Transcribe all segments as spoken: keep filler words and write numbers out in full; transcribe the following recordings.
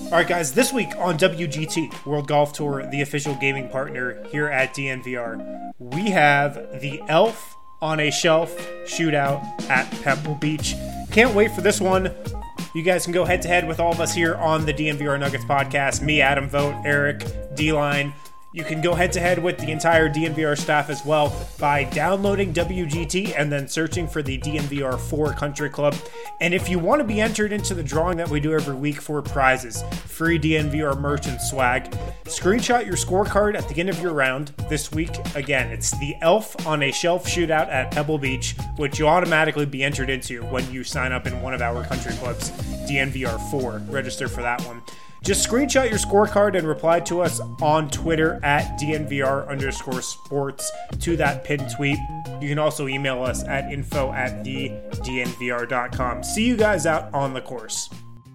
All right, guys, this week on W G T, World Golf Tour, the official gaming partner here at D N V R, we have the Elf on a Shelf shootout at Pebble Beach. Can't wait for this one. You guys can go head-to-head with all of us here on the D N V R Nuggets podcast. Me, Adam Vogt, Eric, D-Line. You can go head-to-head with the entire D N V R staff as well by downloading W G T and then searching for the D N V R four Country Club. And if you want to be entered into the drawing that we do every week for prizes, free D N V R merch and swag, screenshot your scorecard at the end of your round. This week, again, it's the Elf on a Shelf shootout at Pebble Beach, which you'll automatically be entered into when you sign up in one of our country clubs, D N V R four. Register for that one. Just screenshot your scorecard and reply to us on Twitter at D N V R underscore sports to that pinned tweet. You can also email us at info at the D N V R dot com. See you guys out on the course.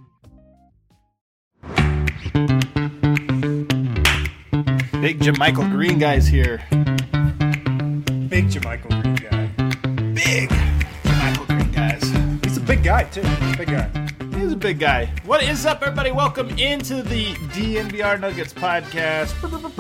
Big JaMychal Green guys here. Big JaMychal Green guy. Big JaMychal Green guys. He's a big guy, too. He's a big guy. He's a big guy. What is up, everybody? Welcome into the D N V R Nuggets podcast.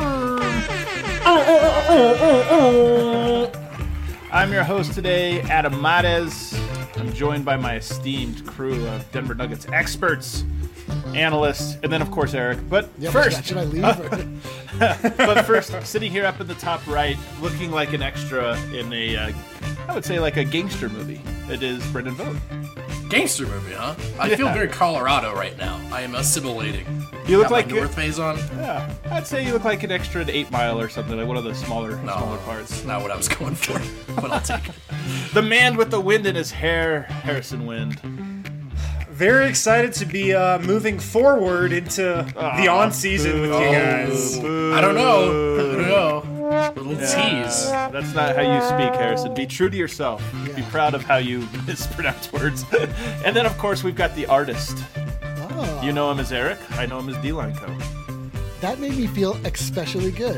I'm your host today, Adam Mares. I'm joined by my esteemed crew of Denver Nuggets experts, analysts, and then, of course, Eric. But yeah, first, should I leave? Uh, but first, sitting here up in the top right, looking like an extra in a, uh, I would say, like a gangster movie. It is Brendan Vogt. Gangster movie, huh? I Yeah. feel very Colorado right now. I am assimilating. You look Got my like North Face on. Yeah, I'd say you look like an extra in Eight Mile or something, like one of the smaller, No, smaller parts. that's not what I was going for, but I'll take it. The man with the wind in his hair, Harrison Wind. Very excited to be uh, moving forward into the Aw, on-season with you guys. I don't know. I don't know. Little Yeah. tease. That's not how you speak, Harrison. Be true to yourself. Be proud of how you mispronounce words. And then, of course, we've got the artist. Oh, You know him as Eric. I know him as D-Line Co. that made me feel especially good.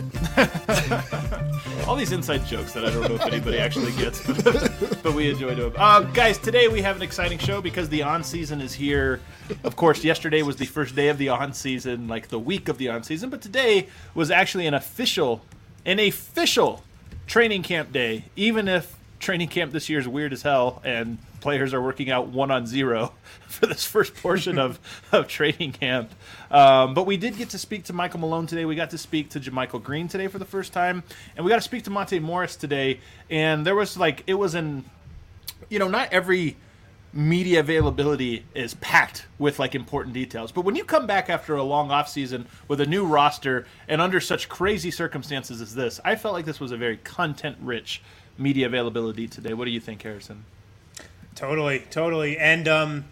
All these inside jokes that I don't know if anybody actually gets, but, but we enjoy doing. Uh, guys, today we have an exciting show because the on-season is here. Of course, yesterday was the first day of the on-season, like the week of the on-season, but today was actually an official, an official training camp day, even if training camp this year is weird as hell and players are working out one on zero for this first portion of, of training camp. Um, but we did get to speak to Michael Malone today. We got to speak to JaMychal Green today for the first time. And we got to speak to Monte Morris today. And there was like, it was in, you know, not every media availability is packed with like important details. But when you come back after a long offseason with a new roster and under such crazy circumstances as this, I felt like this was a very content-rich media availability today. What do you think, Harrison? Totally, totally. And um,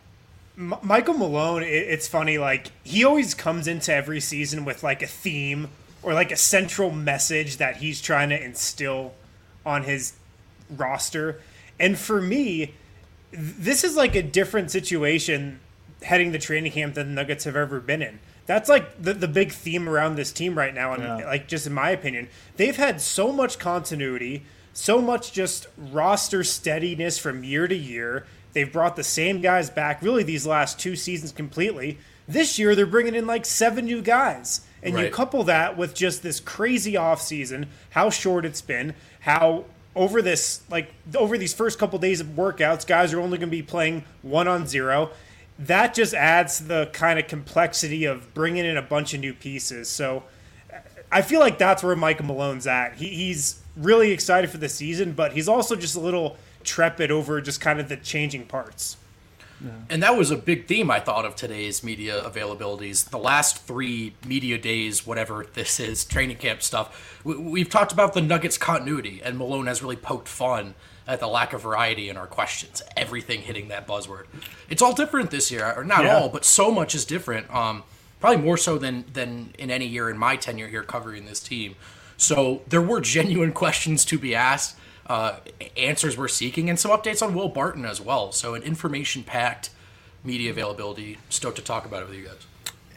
M- Michael Malone, it, it's funny, like, he always comes into every season with, like, a theme or, like, a central message that he's trying to instill on his roster. And for me, th- this is, like, a different situation heading the training camp than the Nuggets have ever been in. That's, like, the, the big theme around this team right now, and, Yeah. like, just in my opinion. They've had so much continuity, so much just roster steadiness from year to year. They've brought the same guys back really these last two seasons completely. This year, they're bringing in like seven new guys. And you Right. couple that with just this crazy offseason, how short it's been, how over this, like over these first couple days of workouts, guys are only going to be playing one on zero. That just adds to the kind of complexity of bringing in a bunch of new pieces. So I feel like that's where Michael Malone's at. He, he's really excited for the season, but he's also just a little trepid over just kind of the changing parts. And that was a big theme, I thought, of today's media availabilities. The last three media days, whatever this is, training camp stuff, we, we've talked about the Nuggets continuity, and Malone has really poked fun at the lack of variety in our questions, everything hitting that buzzword. It's all different this year, or not Yeah. all, but so much is different, um, probably more so than, than in any year in my tenure here covering this team. So there were genuine questions to be asked, uh, answers we're seeking, and some updates on Will Barton as well. So an information-packed media availability. Stoked to talk about it with you guys.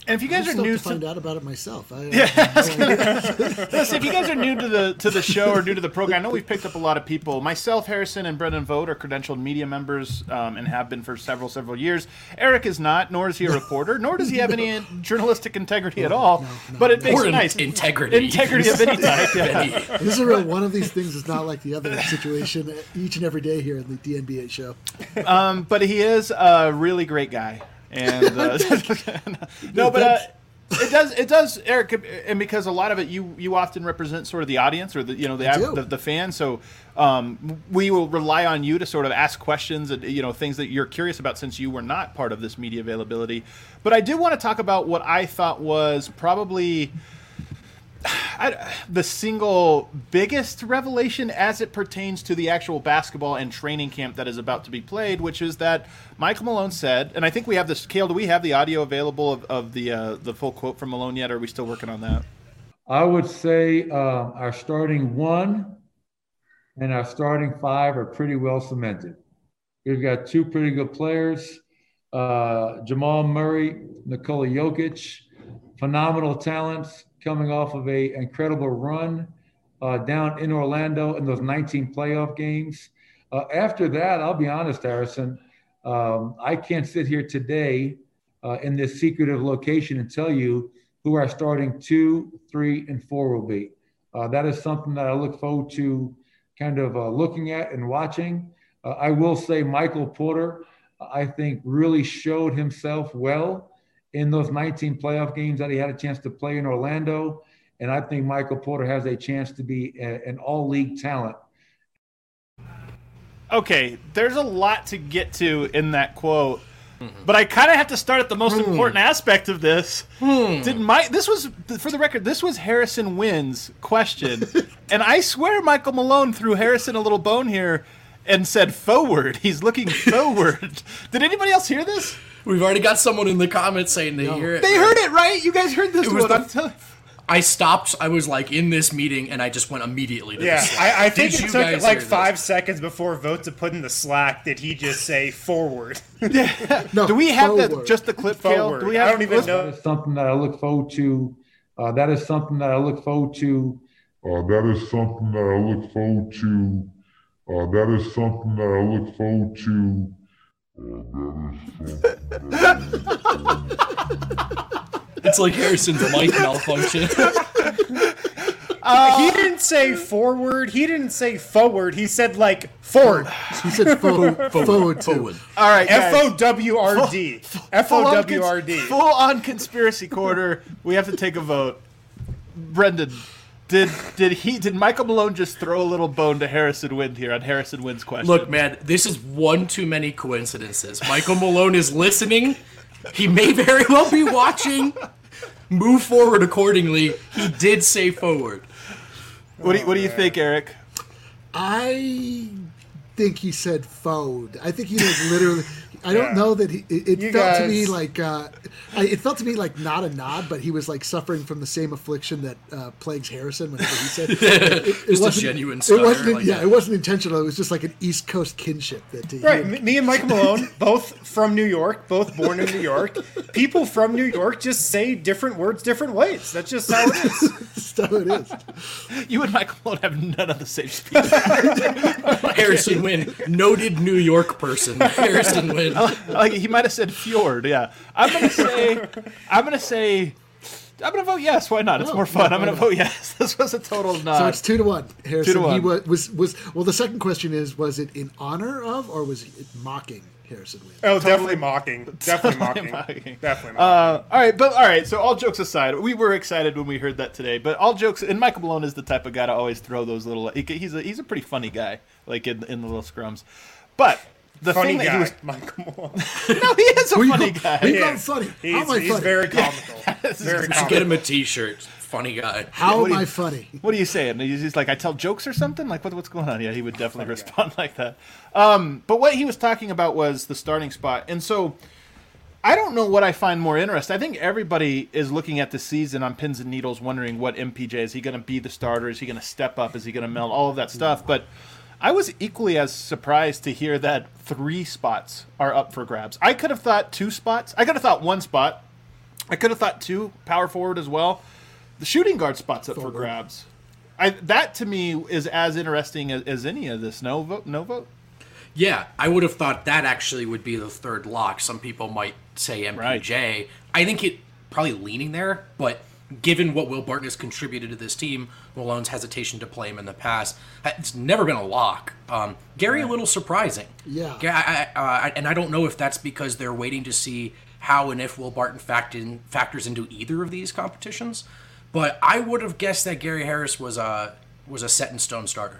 And if you guys I'm are stoked new to to find out about it myself. I, Yeah. I, Listen, if you guys are new to the to the show or new to the program, I know we've picked up a lot of people. Myself, Harrison, and Brendan Vogt are credentialed media members um, and have been for several, several years. Eric is not, nor is he a reporter, nor does he have any journalistic integrity at all. no, no, but it no. makes Or it in- nice. integrity. Integrity of any type. Yeah. Any- this is a real one of these things is not like the other situation each and every day here in the D N B A show. Um, but he is a really great guy. And uh, no, but uh, it does, it does, Eric, and because a lot of it, you you often represent sort of the audience or the you know the do. the, the fan. So um, we will rely on you to sort of ask questions and you know things that you're curious about since you were not part of this media availability. But I do want to talk about what I thought was probably I, the single biggest revelation as it pertains to the actual basketball and training camp that is about to be played, which is that Michael Malone said, and I think we have this. Cale, do we have the audio available of, of the uh, the full quote from Malone yet, or are we still working on that? I would say um, our starting one and our starting five are pretty well cemented. We've got two pretty good players, uh, Jamal Murray, Nikola Jokic, phenomenal talents coming off of a incredible run uh, down in Orlando in those nineteen playoff games. Uh, after that, I'll be honest, Harrison, um, I can't sit here today uh, in this secretive location and tell you who our starting two, three, and four will be. Uh, that is something that I look forward to kind of uh, looking at and watching. Uh, I will say Michael Porter, I think, really showed himself well in those nineteen playoff games that he had a chance to play in Orlando. And I think Michael Porter has a chance to be a, an all-league talent. Okay, there's a lot to get to in that quote, mm-hmm. but I kind of have to start at the most mm. important aspect of this. Mm. Did my this was for the record, this was Harrison Wynn's question, and I swear Michael Malone threw Harrison a little bone here and said forward. He's looking forward. Did anybody else hear this? We've already got someone in the comments saying they no. hear it. They right? heard it, right? You guys heard this one. I'm telling I stopped. I was like in this meeting, and I just went immediately to yeah, the Slack. I, I think Did it you took guys like hear five this? seconds before Vote to put in the Slack did he just say forward. Yeah. No, Do we have forward. the, just the clip, Cale? Do we have, I don't even That know. is something that I look forward to. Uh, that is something that I look forward to. Uh, that is something that I look forward to. Uh, that is something that I look forward to. Uh, that is something that It's like Harrison's mic malfunction. Uh, he didn't say forward. He didn't say forward. He said like forward. He said forward, forward, too. Forward. All right, F guys. O W R D. F O W R D. Full on conspiracy quarter. We have to take a vote. Brendan, did did he did Michael Malone just throw a little bone to Harrison Wynn here on Harrison Wynn's question? Look, man, this is one too many coincidences. Michael Malone is listening. He may very well be watching. Move forward accordingly. He did say forward. What do you, what do you think, Eric? I think he said forward. I think he was literally. I don't Yeah. know that he. It, it You felt to me guys- like. Uh, I, it felt to me like not a nod, but he was like suffering from the same affliction that uh, plagues Harrison. Whenever he said it, it, it Just a wasn't- genuine It stutter wasn't. like yeah, that. it wasn't intentional. It was just like an East Coast kinship that. He, Right, me- me and Mike Malone, both from New York, both born in New York. People from New York just say different words different ways. That's just how it is. That's how it is. You and Michael Malone have none of the same speech. Harrison Wynn, noted New York person. Harrison Wynn. Like he might have said fjord. Yeah, I'm gonna say. I'm gonna say. I'm gonna vote yes. Why not? It's No, more fun. no, I'm gonna no. vote yes. This was a total nod. So it's two to one. Harrison. one. He was, was was well. The second question is: was it in honor of, or was it mocking Harrison Wynn? Oh, definitely mocking. Definitely mocking. mocking. Definitely mocking. Uh, all right, but all right. So all jokes aside, we were excited when we heard that today. But all jokes, and Michael Malone is the type of guy to always throw those little. He, he's a he's a pretty funny guy, like in in the little scrums. But the funny thing that guy, he was Michael Malone. no, he is a Who you funny call- guy. who you He call is. funny? How He's, am I he's funny? very comical. Very Get comical. him a T-shirt. Funny guy. How What am do you- I funny? What are you saying? He's just like, I tell jokes or something? Like, what, what's going on? Yeah, he would definitely respond like that. Um, but what he was talking about was the starting spot. And so I don't know what I find more interesting. I think everybody is looking at the season on pins and needles, wondering what M P J, is he going to be the starter? Is he going to step up? Is he going to meld? All of that stuff. But I was equally as surprised to hear that three spots are up for grabs. I could have thought two spots. I could have thought one spot. I could have thought two power forward as well. The shooting guard spot's up Forward. for grabs. I, that to me is as interesting as, as any of this. No vote? No vote? Yeah, I would have thought that actually would be the third lock. Some people might say M P J. Right. I think it probably leaning there, but given what Will Barton has contributed to this team, Malone's hesitation to play him in the past, it's never been a lock. Um, Gary, a little surprising. Yeah. I, I, uh, and I don't know if that's because they're waiting to see how and if Will Barton fact in, factors into either of these competitions. But I would have guessed that Gary Harris was a was a set in stone starter.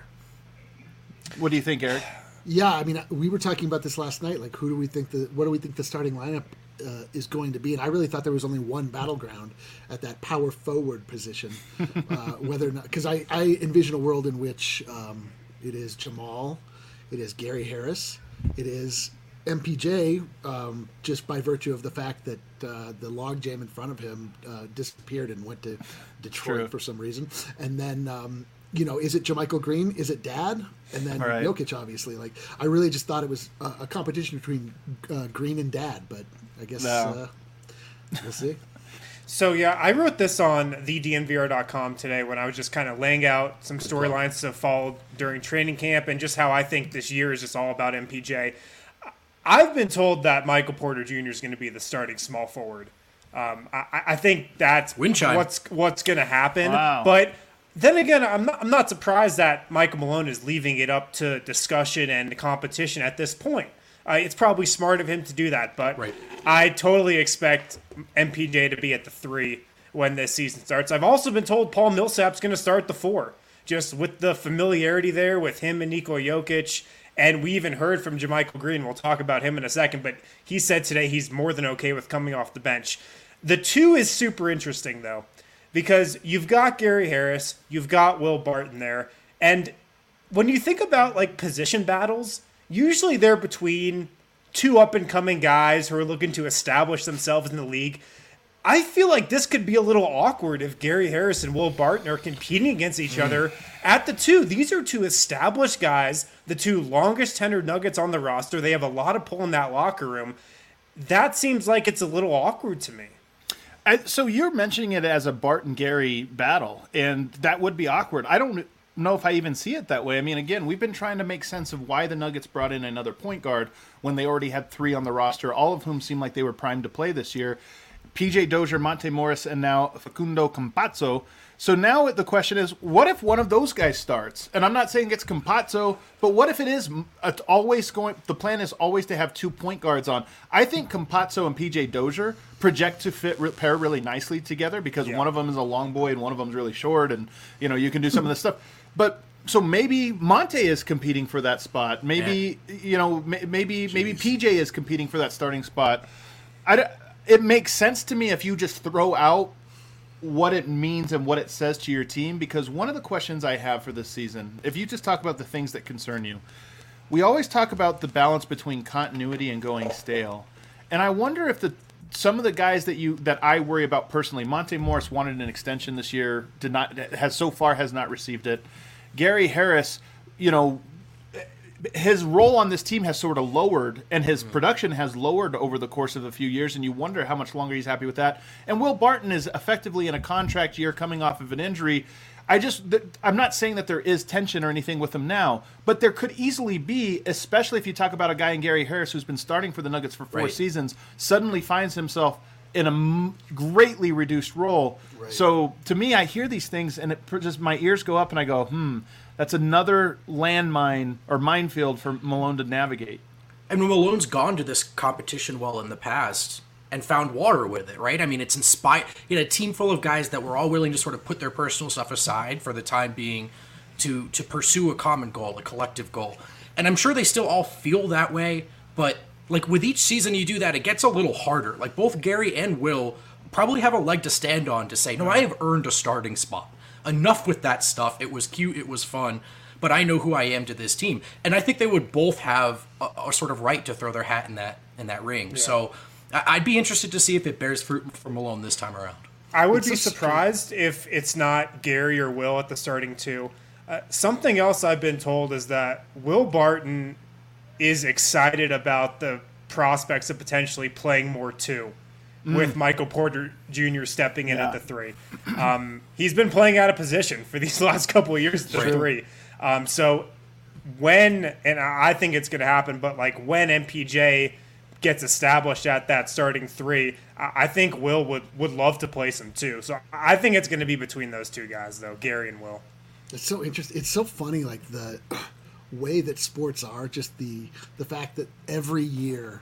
What do you think, Eric? Yeah, I mean, we were talking about this last night. Like, who do we think the what do we think the starting lineup uh, is going to be? And I really thought there was only one battleground at that power forward position. uh, whether or not, because I, I envision a world in which um, it is Jamal, it is Gary Harris, it is M P J, um, just by virtue of the fact that uh, the logjam in front of him uh, disappeared and went to Detroit True. for some reason, and then. Um, You know, is it JaMychal Green? Is it Dad? And then Right. Jokic, obviously. Like, I really just thought it was a, a competition between uh, Green and Dad, but I guess No. uh, we'll see. So yeah, I wrote this on the D N V R dot com today when I was just kind of laying out some storylines to follow during training camp and just how I think this year is just all about M P J. I've been told that Michael Porter Junior is going to be the starting small forward. Um, I, I think that's Wind chime. what's what's going to happen. Wow. But then again, I'm not, I'm not surprised that Michael Malone is leaving it up to discussion and competition at this point. Uh, it's probably smart of him to do that, but Right. I totally expect M P J to be at the three when this season starts. I've also been told Paul Millsap's going to start the four, just with the familiarity there with him and Nikola Jokic. And we even heard from JaMychal Green. We'll talk about him in a second, but he said today he's more than okay with coming off the bench. The two is super interesting, though, because you've got Gary Harris, you've got Will Barton there, and when you think about like position battles, usually they're between two up-and-coming guys who are looking to establish themselves in the league. I feel like this could be a little awkward if Gary Harris and Will Barton are competing against each other at the two. These are two established guys, the two longest tenured Nuggets on the roster. They have a lot of pull in that locker room. That seems like it's a little awkward to me. I, so you're mentioning it as a Barton Gary battle, and that would be awkward. I don't know if I even see it that way. I mean, again, we've been trying to make sense of why the Nuggets brought in another point guard when they already had three on the roster, all of whom seemed like they were primed to play this year. P J Dozier, Monte Morris, and now Facundo Campazzo. So now the question is, what if one of those guys starts? And I'm not saying it's Campazzo, but what if it is it's always going? The plan is always to have two point guards on. I think Campazzo and P J Dozier project to fit pair really nicely together because Yeah. one of them is a long boy and one of them is really short, and you know you can do some of this stuff. But so maybe Monte is competing for that spot. Maybe you know maybe maybe P J is competing for that starting spot. I. It makes sense to me if you just throw out what it means and what it says to your team, because one of the questions I have for this season, if you just talk about the things that concern you, we always talk about the balance between continuity and going stale. And I wonder if the some of the guys that you that I worry about personally, Monte Morris wanted an extension this year, did not has so far has not received it. Gary Harris, you know, his role on this team has sort of lowered, and his production has lowered over the course of a few years, and you wonder how much longer he's happy with that. And Will Barton is effectively in a contract year coming off of an injury. I just, th- I'm not saying that there is tension or anything with him now, but there could easily be, especially if you talk about a guy in Gary Harris who's been starting for the Nuggets for four Right. seasons, suddenly finds himself in a m- greatly reduced role. Right. So to me, I hear these things, and it just my ears go up, and I go, hmm. That's another landmine or minefield for Malone to navigate. And Malone's gone to this competition well in the past and found water with it, right? I mean, it's inspired. You know, a team full of guys that were all willing to sort of put their personal stuff aside for the time being to to pursue a common goal, a collective goal. And I'm sure they still all feel that way, but like with each season you do that, it gets a little harder. Like both Gary and Will probably have a leg to stand on to say, no, I have earned a starting spot. Enough with that stuff. It was cute. It was fun. But I know who I am to this team. And I think they would both have a, a sort of right to throw their hat in that in that ring. Yeah. So I, I'd be interested to see if it bears fruit for Malone this time around. I would It's be a surprised if it's not Gary or Will at the starting two. Uh, something else I've been told is that Will Barton is excited about the prospects of potentially playing more two. mm. with Michael Porter Junior stepping in yeah. at the three. Um, he's been playing out of position for these last couple of years at the three. Um, so when, and I think it's going to happen, but like when M P J gets established at that starting three, I think Will would, would love to place him too. So I think it's going to be between those two guys, though, Gary and Will. It's so interesting. It's so funny, like the way that sports are, just the the fact that every year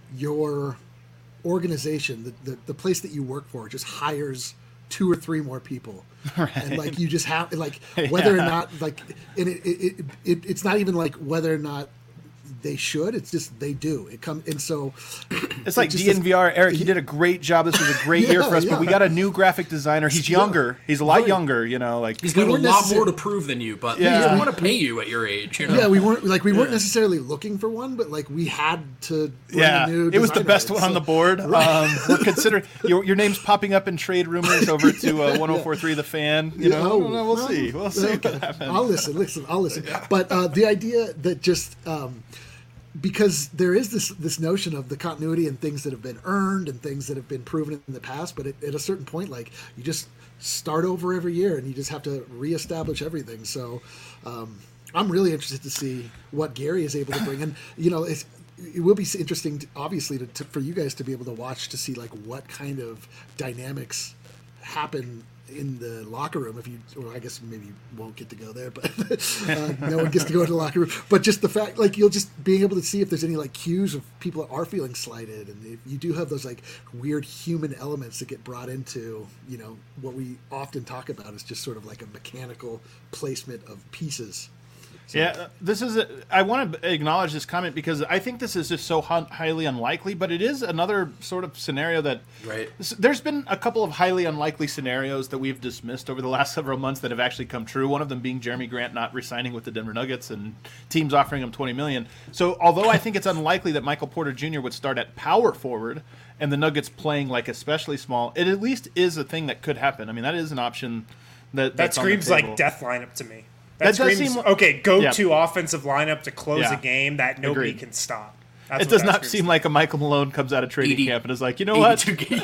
your organization, the, the, the place that you work for, just hires two or three more people. Right. And like you just have, like, whether yeah. or not, like, and it, it, it, it's not even like whether or not they should, it's just they do it come and so it's like D N V R. Eric, you did a great job. This was a great yeah, year for us, yeah. but we got a new graphic designer. He's younger. He's a lot right. younger, you know, like he's got we a lot necessar- more to prove than you, but yeah. we don't want to pay you at your age, you know? Yeah, we weren't like we weren't yeah. necessarily looking for one, but like we had to bring yeah a new it was the best in, one so. on the board. Right. Um, we're considering your, your name's popping up in trade rumors over to uh, one oh four point three The Fan, you know. Oh, well, we'll well, see. We'll see okay. what happens. I'll listen, listen, I'll listen. But uh, the idea that just um, because there is this this notion of the continuity and things that have been earned and things that have been proven in the past, but at, at a certain point, like you just start over every year and you just have to reestablish everything. So um, I'm really interested to see what Gary is able to bring. And you know, it's, it will be interesting, to, obviously, to, to, for you guys to be able to watch to see like what kind of dynamics happen in the locker room. If you, or I guess maybe you won't get to go there, but uh, no one gets to go to the locker room. But just the fact, like you'll just being able to see if there's any like cues of people that are feeling slighted, and if you do have those like weird human elements that get brought into, you know, what we often talk about is just sort of like a mechanical placement of pieces. So. Yeah, this is. A, I want to acknowledge this comment because I think this is just so hun- highly unlikely, but it is another sort of scenario that. Right. There's been a couple of highly unlikely scenarios that we've dismissed over the last several months that have actually come true. One of them being Jeremy Grant not re-signing with the Denver Nuggets and teams offering him twenty million dollars. So, although I think it's unlikely that Michael Porter Junior would start at power forward and the Nuggets playing like especially small, it at least is a thing that could happen. I mean, that is an option that that screams like death lineup to me. That, that screams, seem, okay, go-to yeah. offensive lineup to close yeah. a game that nobody Agreed. can stop. That's it does not seem like a Michael Malone comes out of training eighty, camp and is like, you know what?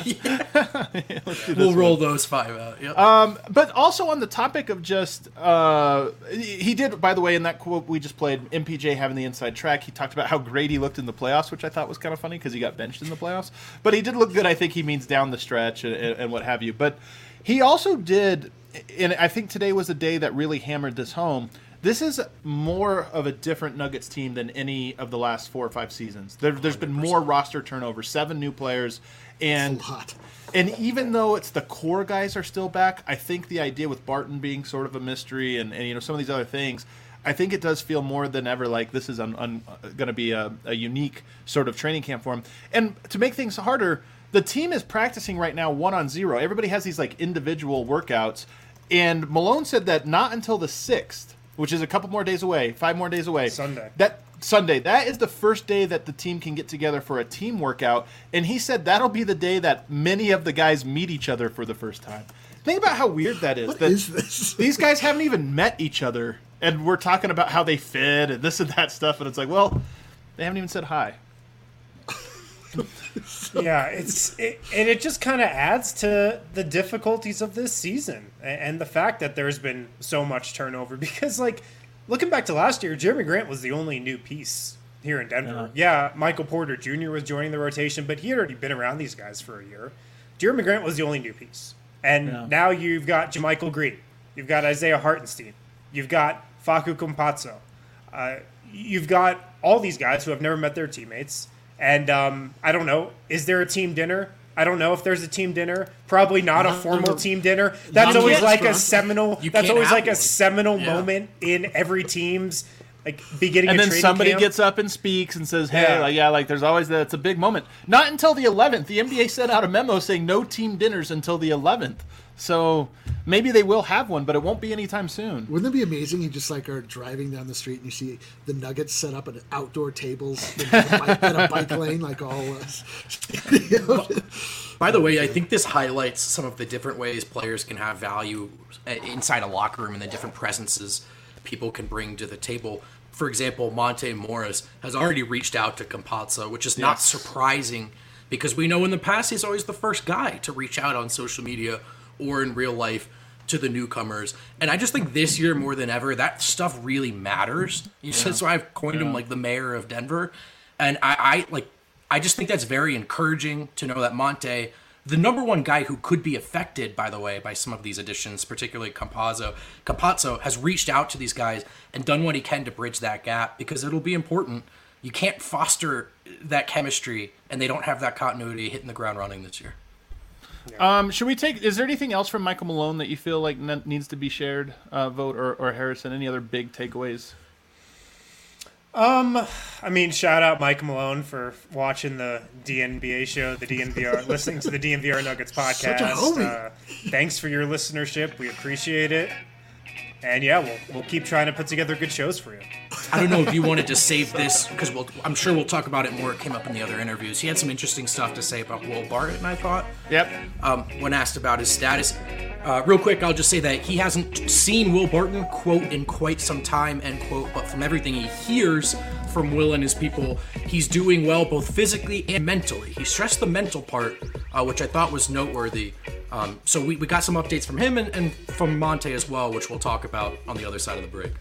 yeah, we'll roll one. those five out. Yep. Um, but also on the topic of just, uh, he did, by the way, in that quote we just played, M P J having the inside track, he talked about how great he looked in the playoffs, which I thought was kind of funny because he got benched in the playoffs. But he did look good. I think he means down the stretch and, and, and what have you. But he also did, and I think today was a day that really hammered this home. This is more of a different Nuggets team than any of the last four or five seasons. There, there's been more roster turnover, seven new players, and That's a lot. And even though it's the core guys are still back, I think the idea with Barton being sort of a mystery and, and you know some of these other things, I think it does feel more than ever like this is un, un, going to be a, a unique sort of training camp for him. And to make things harder, the team is practicing right now one on zero. Everybody has these like individual workouts, and Malone said that not until the sixth. Which is a couple more days away, five more days away. Sunday. That Sunday. That is the first day that the team can get together for a team workout. And he said that'll be the day that many of the guys meet each other for the first time. Think about how weird that is. What that is this? These guys haven't even met each other. And we're talking about how they fit and this and that stuff. And it's like, well, they haven't even said hi. Yeah, it's it, and it just kind of adds to the difficulties of this season and, and the fact that there's been so much turnover because, like, looking back to last year, Jeremy Grant was the only new piece here in Denver. Yeah, yeah Michael Porter Junior was joining the rotation, but he had already been around these guys for a year. Jeremy Grant was the only new piece. And yeah. now you've got JaMychal Green. You've got Isaiah Hartenstein. You've got Facu Campazzo. Uh, you've got all these guys who have never met their teammates. And um, I don't know, is there a team dinner? I don't know if there's a team dinner. Probably not a formal team dinner. That's You always can't, like bro. a seminal. You That's can't always have like a one. seminal Yeah. moment in every team's like beginning. And of then training somebody camp. gets up and speaks and says, hey, Yeah. like, yeah, like there's always that. It's a big moment. Not until the eleventh. The N B A sent out a memo saying no team dinners until the eleventh. So maybe they will have one, but it won't be anytime soon. Wouldn't it be amazing? You just like are driving down the street and you see the Nuggets set up at outdoor tables in a bike, in a bike lane, like all us. By the way, I think this highlights some of the different ways players can have value inside a locker room and the different presences people can bring to the table. For example, Monte Morris has already reached out to Campazzo, which is not Yes. surprising because we know in the past he's always the first guy to reach out on social media or in real life to the newcomers. And I just think this year more than ever, that stuff really matters. You yeah. That's why I've coined yeah. him like the mayor of Denver. And I, I like I just think that's very encouraging to know that Monte, the number one guy who could be affected, by the way, by some of these additions, particularly Campazzo, Campazzo has reached out to these guys and done what he can to bridge that gap, because it'll be important. You can't foster that chemistry and they don't have that continuity hitting the ground running this year. Yeah. Um, should we take? Is there anything else from Michael Malone that you feel like ne- needs to be shared, uh, Vogt or, or Harrison? Any other big takeaways? Um, I mean, shout out Mike Malone for watching the D N B A show, the D N V R, listening to the D N V R Nuggets podcast. Such a homie. Uh, thanks for your listenership. We appreciate it. And yeah, we'll we'll keep trying to put together good shows for you. I don't know if you wanted to save this, because we'll, I'm sure we'll talk about it more. It came up in the other interviews. He had some interesting stuff to say about Will Barton, I thought. Yep. Um, when asked about his status. Uh, real quick, I'll just say that he hasn't seen Will Barton, quote, in quite some time, end quote, but from everything he hears from Will and his people, he's doing well both physically and mentally. He stressed the mental part, uh, which I thought was noteworthy. Um, so we, we got some updates from him and, and from Monte as well, which we'll talk about on the other side of the break.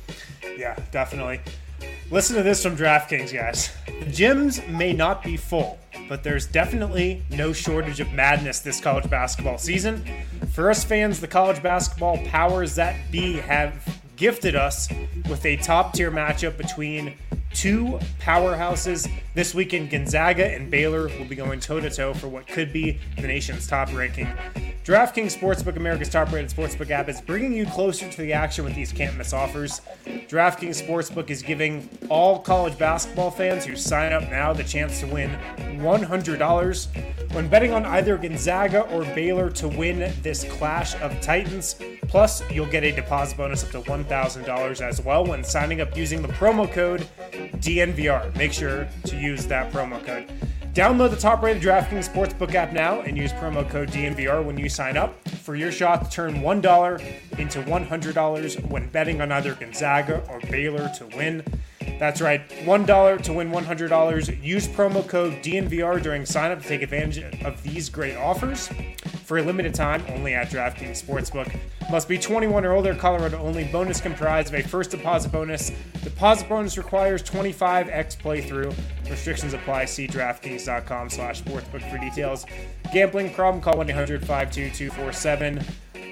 Yeah, definitely. Listen to this from DraftKings, guys. The gyms may not be full, but there's definitely no shortage of madness this college basketball season. For us fans, the college basketball powers that be have gifted us with a top-tier matchup between two powerhouses. This weekend, Gonzaga and Baylor will be going toe-to-toe for what could be the nation's top ranking. DraftKings Sportsbook, America's top-rated sportsbook app, is bringing you closer to the action with these can't-miss offers. DraftKings Sportsbook is giving all college basketball fans who sign up now the chance to win one hundred dollars when betting on either Gonzaga or Baylor to win this clash of titans. Plus, you'll get a deposit bonus up to one thousand dollars as well when signing up using the promo code D N V R. Make sure to use that promo code. Download the top-rated DraftKings Sportsbook app now and use promo code D N V R when you sign up for your shot to turn one dollar into one hundred dollars when betting on either Gonzaga or Baylor to win. That's right, one dollar to win one hundred dollars. Use promo code D N V R during sign-up to take advantage of these great offers. For a limited time, only at DraftKings Sportsbook. Must be twenty-one or older, Colorado only. Bonus comprised of a first deposit bonus. Deposit bonus requires twenty-five x playthrough. Restrictions apply. See DraftKings.com slash sportsbook for details. Gambling problem? Call one eight hundred five two two four seven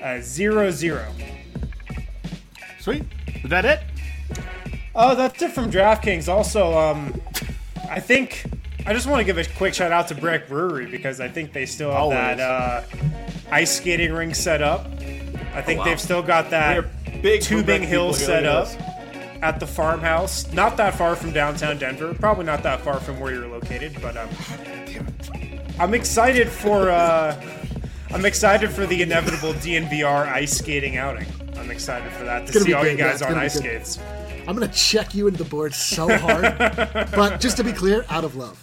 zero zero. Sweet. Is that it? Oh, that's it from DraftKings. Also, um, I think I just want to give a quick shout out to Breck Brewery because I think they still have Always. that uh, ice skating rink set up. I think Oh, wow. they've still got that big tubing Breck hill people set here, up look at at the farmhouse. Not that far from downtown Denver. Probably not that far from where you're located, but um, I'm excited for uh, I'm excited for the inevitable D N V R ice skating outing. I'm excited for that to gonna see be all good, you yeah, guys it's on gonna be ice good. skates. I'm going to check you into the board so hard. But just to be clear, out of love.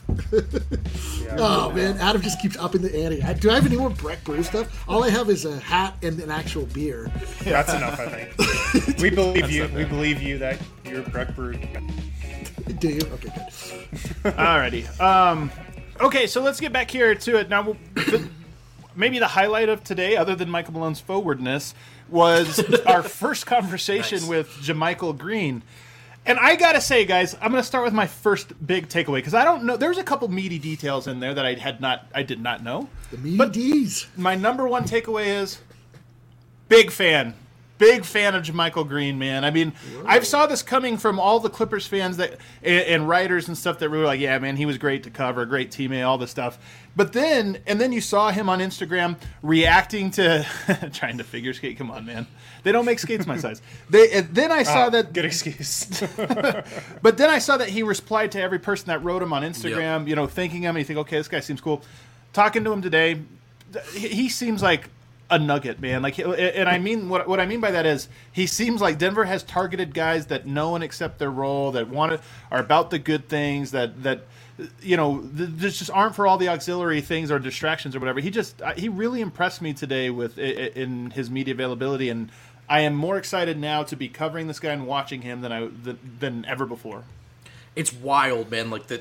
Oh, man. Adam just keeps upping the ante. I- Do I have any more Breck Brew stuff? All I have is a hat and an actual beer. That's enough, I think. We believe you. We believe you that you're Breck Brew. Do you? Okay, good. Alrighty. Um, okay, so let's get back here to it. Now, we'll- the, maybe the highlight of today, other than Michael Malone's forwardness, was our first conversation Nice. with JaMychal Green. And I gotta say, guys, I'm gonna start with my first big takeaway because I don't know. There's a couple meaty details in there that I had not, I did not know. The meaty But- D's. My number one takeaway is big fan. Big fan of JaMychal Green, man. I mean, I saw this coming from all the Clippers fans that and, and writers and stuff that were like, "Yeah, man, he was great to cover, great teammate, all this stuff." But then, and then you saw him on Instagram reacting to trying to figure skate. Come on, man, they don't make skates my size. They and then I saw Ah, that Good excuse. but then I saw that he replied to every person that wrote him on Instagram, you know, thanking him. And you think, okay, this guy seems cool. Talking to him today, th- he he seems like a nugget, man. Like, and I mean, what what I mean by that is he seems like Denver has targeted guys that know and accept their role, that want to, are about the good things, that that you know, th- just aren't for all the auxiliary things or distractions or whatever. He just he really impressed me today with in his media availability, and I am more excited now to be covering this guy and watching him than I than, than ever before. It's wild, man. Like that,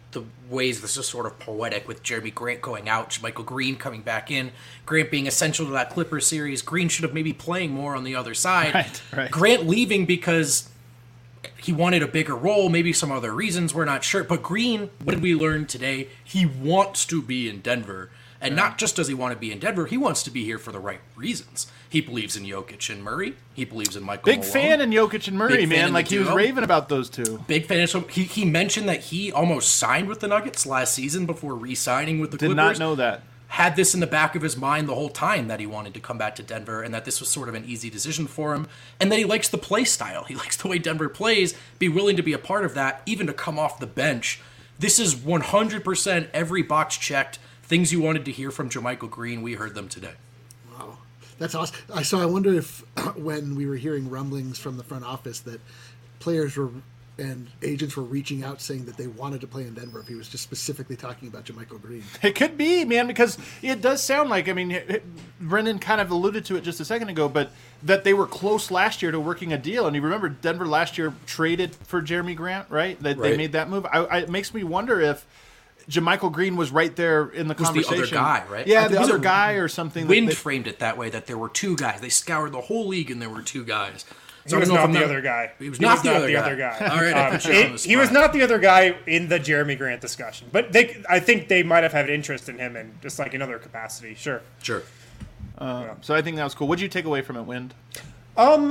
the ways this is sort of poetic with Jeremy Grant going out, Michael Green coming back in, Grant being essential to that Clippers series. Green should have maybe playing more on the other side. Right, right. Grant leaving because he wanted a bigger role, maybe some other reasons, we're not sure. But Green, what did we learn today? He wants to be in Denver. And yeah. not just does he want to be in Denver, he wants to be here for the right reasons. He believes in Jokic and Murray. He believes in Michael Big Malone. fan in Jokic and Murray, Big man. Like, he was raving about those two. Big fan. So he, he mentioned that he almost signed with the Nuggets last season before re-signing with the Did Clippers. not know that. Had this in the back of his mind the whole time that he wanted to come back to Denver and that this was sort of an easy decision for him. And that he likes the play style. He likes the way Denver plays, be willing to be a part of that, even to come off the bench. This is one hundred percent every box checked. Things you wanted to hear from JaMychal Green, we heard them today. Wow. That's awesome. I So I wonder if when we were hearing rumblings from the front office that players were and agents were reaching out saying that they wanted to play in Denver, if he was just specifically talking about JaMychal Green. It could be, man, because it does sound like, I mean, Brendan kind of alluded to it just a second ago, but that they were close last year to working a deal. And you remember Denver last year traded for Jeremy Grant, right? That right. They made that move. I, I, it makes me wonder if JaMychal Green was right there in the was conversation. the other guy, right? Yeah, the was other a, guy or something. Wind they, framed it that way, that there were two guys. They scoured the whole league and there were two guys. So he was not the other guy. He was he not, was the, not other the guy. other guy. All right, I um, put you on the it, spot. he was not the other guy in the Jeremy Grant discussion, but they, I think they might have had interest in him in just like another capacity. Sure. Sure. Uh, yeah. So I think that was cool. What did you take away from it, Wind? Um,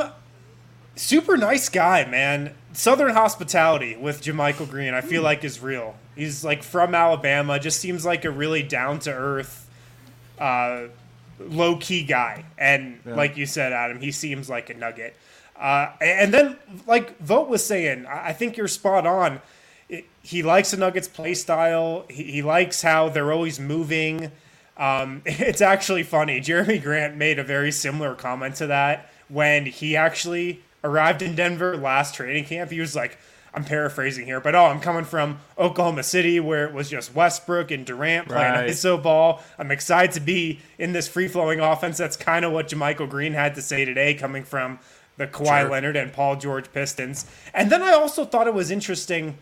super nice guy, man. Southern hospitality with JaMychal Green, I feel like is real. He's like from Alabama. Just seems like a really down to earth, uh, low key guy. And yeah. like you said, Adam, he seems like a nugget. Uh, and then, like Vogt was saying, I think you're spot on. It, he likes the Nuggets' play style. He, he likes how they're always moving. Um, it's actually funny. Jeremy Grant made a very similar comment to that when he actually arrived in Denver last training camp. He was like, I'm paraphrasing here, but oh, I'm coming from Oklahoma City where it was just Westbrook and Durant playing right. I S O ball. I'm excited to be in this free-flowing offense. That's kind of what JaMychal Green had to say today, coming from the Kawhi sure. Leonard and Paul George Pistons. And then I also thought it was interesting.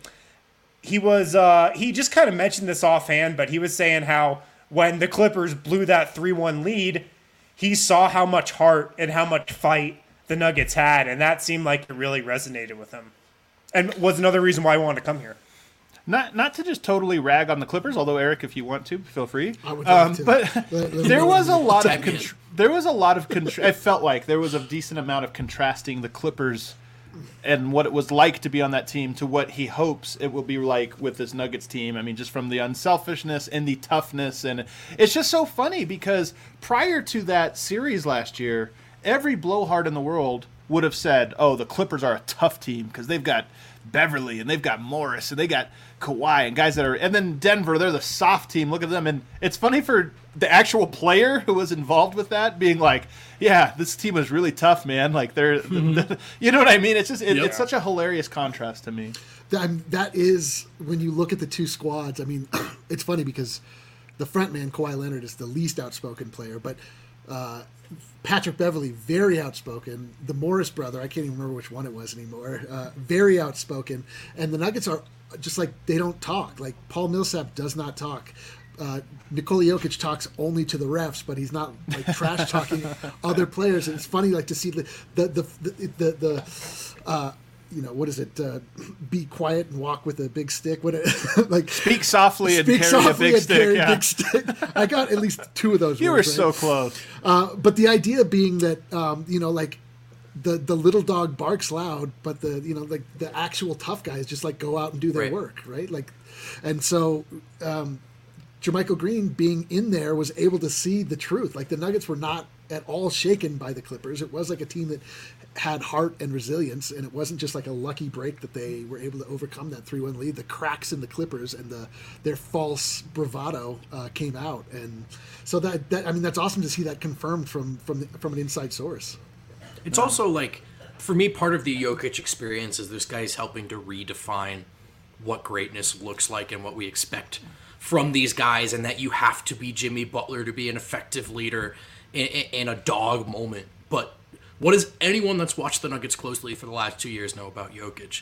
He was uh, he just kind of mentioned this offhand, but he was saying how when the Clippers blew that three one lead, he saw how much heart and how much fight the Nuggets had, and that seemed like it really resonated with him. And was another reason why I wanted to come here. Not not to just totally rag on the Clippers, although Eric, if you want to, feel free. I would love um, to. But let, let there was a lot of Tag contr- there was a lot of contr- I felt like there was a decent amount of contrasting the Clippers and what it was like to be on that team to what he hopes it will be like with this Nuggets team. I mean, just from the unselfishness and the toughness, and it's just so funny because prior to that series last year, every blowhard in the world would have said, "Oh, the Clippers are a tough team because they've got Beverly and they've got Morris and they got Kawhi and guys that are," and then Denver, they're the soft team. Look at them. And it's funny for the actual player who was involved with that being like, yeah, this team is really tough, man. Like they're, mm-hmm. you know what I mean? It's just, it, yep. it's such a hilarious contrast to me. That, that is, when you look at the two squads, I mean, it's funny because the front man, Kawhi Leonard, is the least outspoken player, but uh, Patrick Beverly, very outspoken. The Morris brother, I can't even remember which one it was anymore, uh, very outspoken. And the Nuggets are just like, they don't talk. Like, Paul Millsap does not talk. Uh, Nikola Jokic talks only to the refs, but he's not like trash talking other players. And it's funny, like, to see the the the the, the, the uh, you know, what is it? Uh, be quiet and walk with a big stick. What it, like speak softly and speak carry softly a big and stick. Carry Yeah. a big stick. I got at least two of those. You words, were right? so close. Uh, but the idea being that um, you know, like the the little dog barks loud, but the you know like the actual tough guys just like go out and do their Right. work, right? Like, and so. Um, JaMychal Green being in there was able to see the truth. Like the Nuggets were not at all shaken by the Clippers. It was like a team that had heart and resilience, and it wasn't just like a lucky break that they were able to overcome that three one lead. The cracks in the Clippers and the their false bravado uh, came out, and so that, that I mean that's awesome to see that confirmed from from the, from an inside source. It's also like, for me, part of the Jokic experience is this guy's helping to redefine what greatness looks like and what we expect from these guys, and that you have to be Jimmy Butler to be an effective leader in, in, in a dog moment. But what does anyone that's watched the Nuggets closely for the last two years know about Jokic?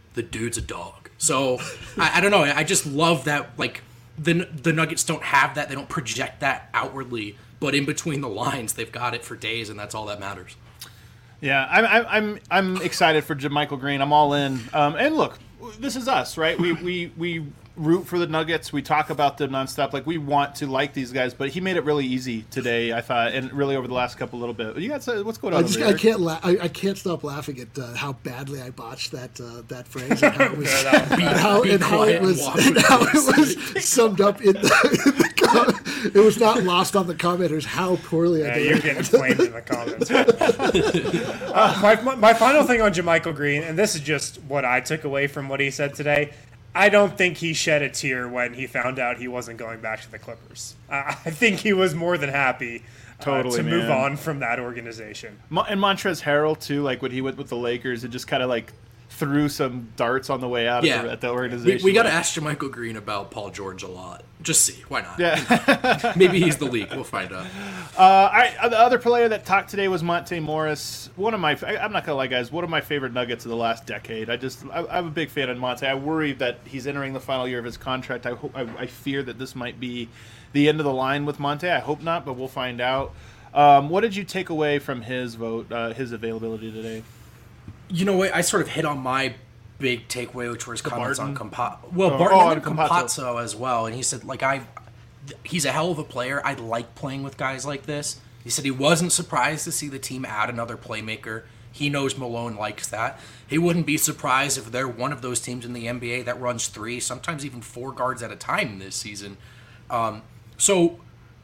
the dude's a dog. So I, I don't know. I just love that. Like the the Nuggets don't have that. They don't project that outwardly, but in between the lines, they've got it for days, and that's all that matters. Yeah, I'm I'm I'm, I'm excited for JaMychal Green. I'm all in. Um, and look, this is us, right? We we we root for the Nuggets. We talk about them nonstop. Like we want to like these guys, but he made it really easy today, I thought, and really over the last couple little bit. You got what's going on? I, just, over I there? can't la- I, I can't stop laughing at uh, how badly I botched that uh, that phrase and how it was and how, and how it was and how it was summed up in the, in the com- it was not lost on the commenters how poorly Yeah, I did. you're getting flamed in the comments. uh, my, my my final thing on JaMychal Green, and this is just what I took away from what he said today. I don't think he shed a tear when he found out he wasn't going back to the Clippers. I I think he was more than happy uh, Totally, to move man. on from that organization. Mo- and Montrezl Harrell too. Like when he went with the Lakers, it just kind of like threw some darts on the way out Yeah, of the, at the we, organization. we got to ask JaMychal Green about Paul George a lot. Just see, why not? Yeah. Maybe he's the leak. We'll find out. Uh, I, the other player that talked today was Monte Morris. One of my, I, I'm not gonna lie, guys, one of my favorite Nuggets of the last decade. I just, I, I'm a big fan of Monte. I worry that he's entering the final year of his contract. I hope, I, I fear that this might be the end of the line with Monte. I hope not, but we'll find out. Um, what did you take away from his vote, uh, his availability today? You know what? I sort of hit on my big takeaway, which was comments Barton? on Campazzo. Well, Oh, Barton oh, and on Campazzo. Campazzo as well. And he said, like, I, he's a hell of a player. I like playing with guys like this. He said he wasn't surprised to see the team add another playmaker. He knows Malone likes that. He wouldn't be surprised if they're one of those teams in the N B A that runs three, sometimes even four guards at a time this season. Um, so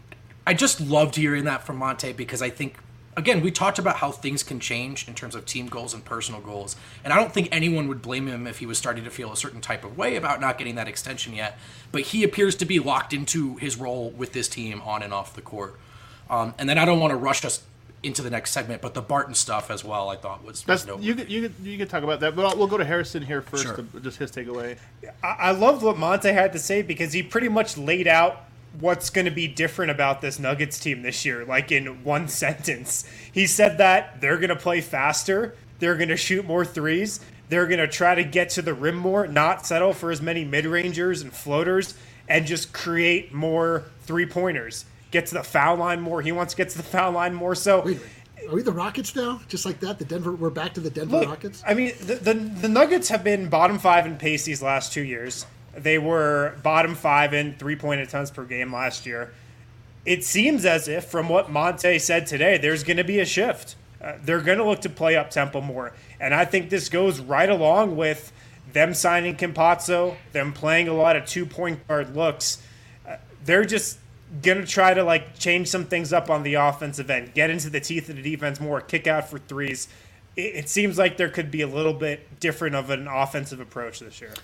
I just loved hearing that from Monte because I think, again, we talked about how things can change in terms of team goals and personal goals. And I don't think anyone would blame him if he was starting to feel a certain type of way about not getting that extension yet. But he appears to be locked into his role with this team on and off the court. Um, and then I don't want to rush us into the next segment, but the Barton stuff as well, I thought was, was That's noteworthy. you. Could, you could, you could talk about that, but I'll, we'll go to Harrison here first. Sure. To, just his takeaway. I, I loved what Monte had to say because he pretty much laid out what's going to be different about this Nuggets team this year, like in one sentence. He said that they're going to play faster, they're going to shoot more threes, they're going to try to get to the rim more, not settle for as many mid-rangers and floaters, and just create more three-pointers. Get to the foul line more. He wants to get to the foul line more. So, Wait, wait, are we the Rockets now? Just like that, the Denver. We're back to the Denver look, Rockets. I mean, the, the the Nuggets have been bottom five in pace these last two years. They were bottom five in three-point attempts per game last year. It seems as if, from what Monte said today, there's going to be a shift. Uh, they're going to look to play up-tempo more. And I think this goes right along with them signing Campazzo, them playing a lot of two-point guard looks. Uh, they're just going to try to like change some things up on the offensive end, get into the teeth of the defense more, kick out for threes. It, it seems like there could be a little bit different of an offensive approach this year.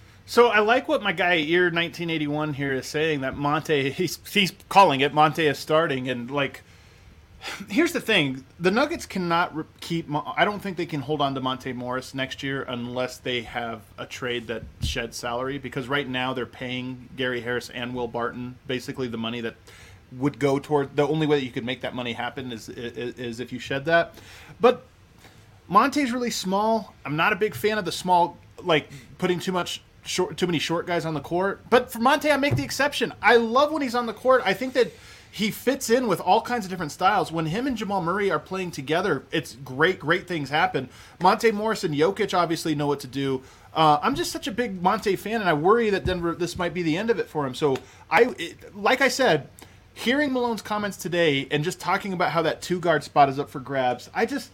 So I like what my guy Ear nineteen eighty-one here is saying, that Monte, he's he's calling it Monte is starting, and like, here's the thing: the Nuggets cannot re- keep. Mo- I don't think they can hold on to Monte Morris next year unless they have a trade that sheds salary. Because right now they're paying Gary Harris and Will Barton basically the money that would go toward. The only way that you could make that money happen is is, is if you shed that. But Monte's really small. I'm not a big fan of the small, like putting too much. Short, too many short guys on the court. But for Monte, I make the exception. I love when he's on the court. I think that he fits in with all kinds of different styles. When him and Jamal Murray are playing together, it's great, great things happen. Monte Morris and Jokic obviously know what to do. Uh, I'm just such a big Monte fan, and I worry that Denver, this might be the end of it for him. So, I, it, like I said, hearing Malone's comments today and just talking about how that two-guard spot is up for grabs, I just...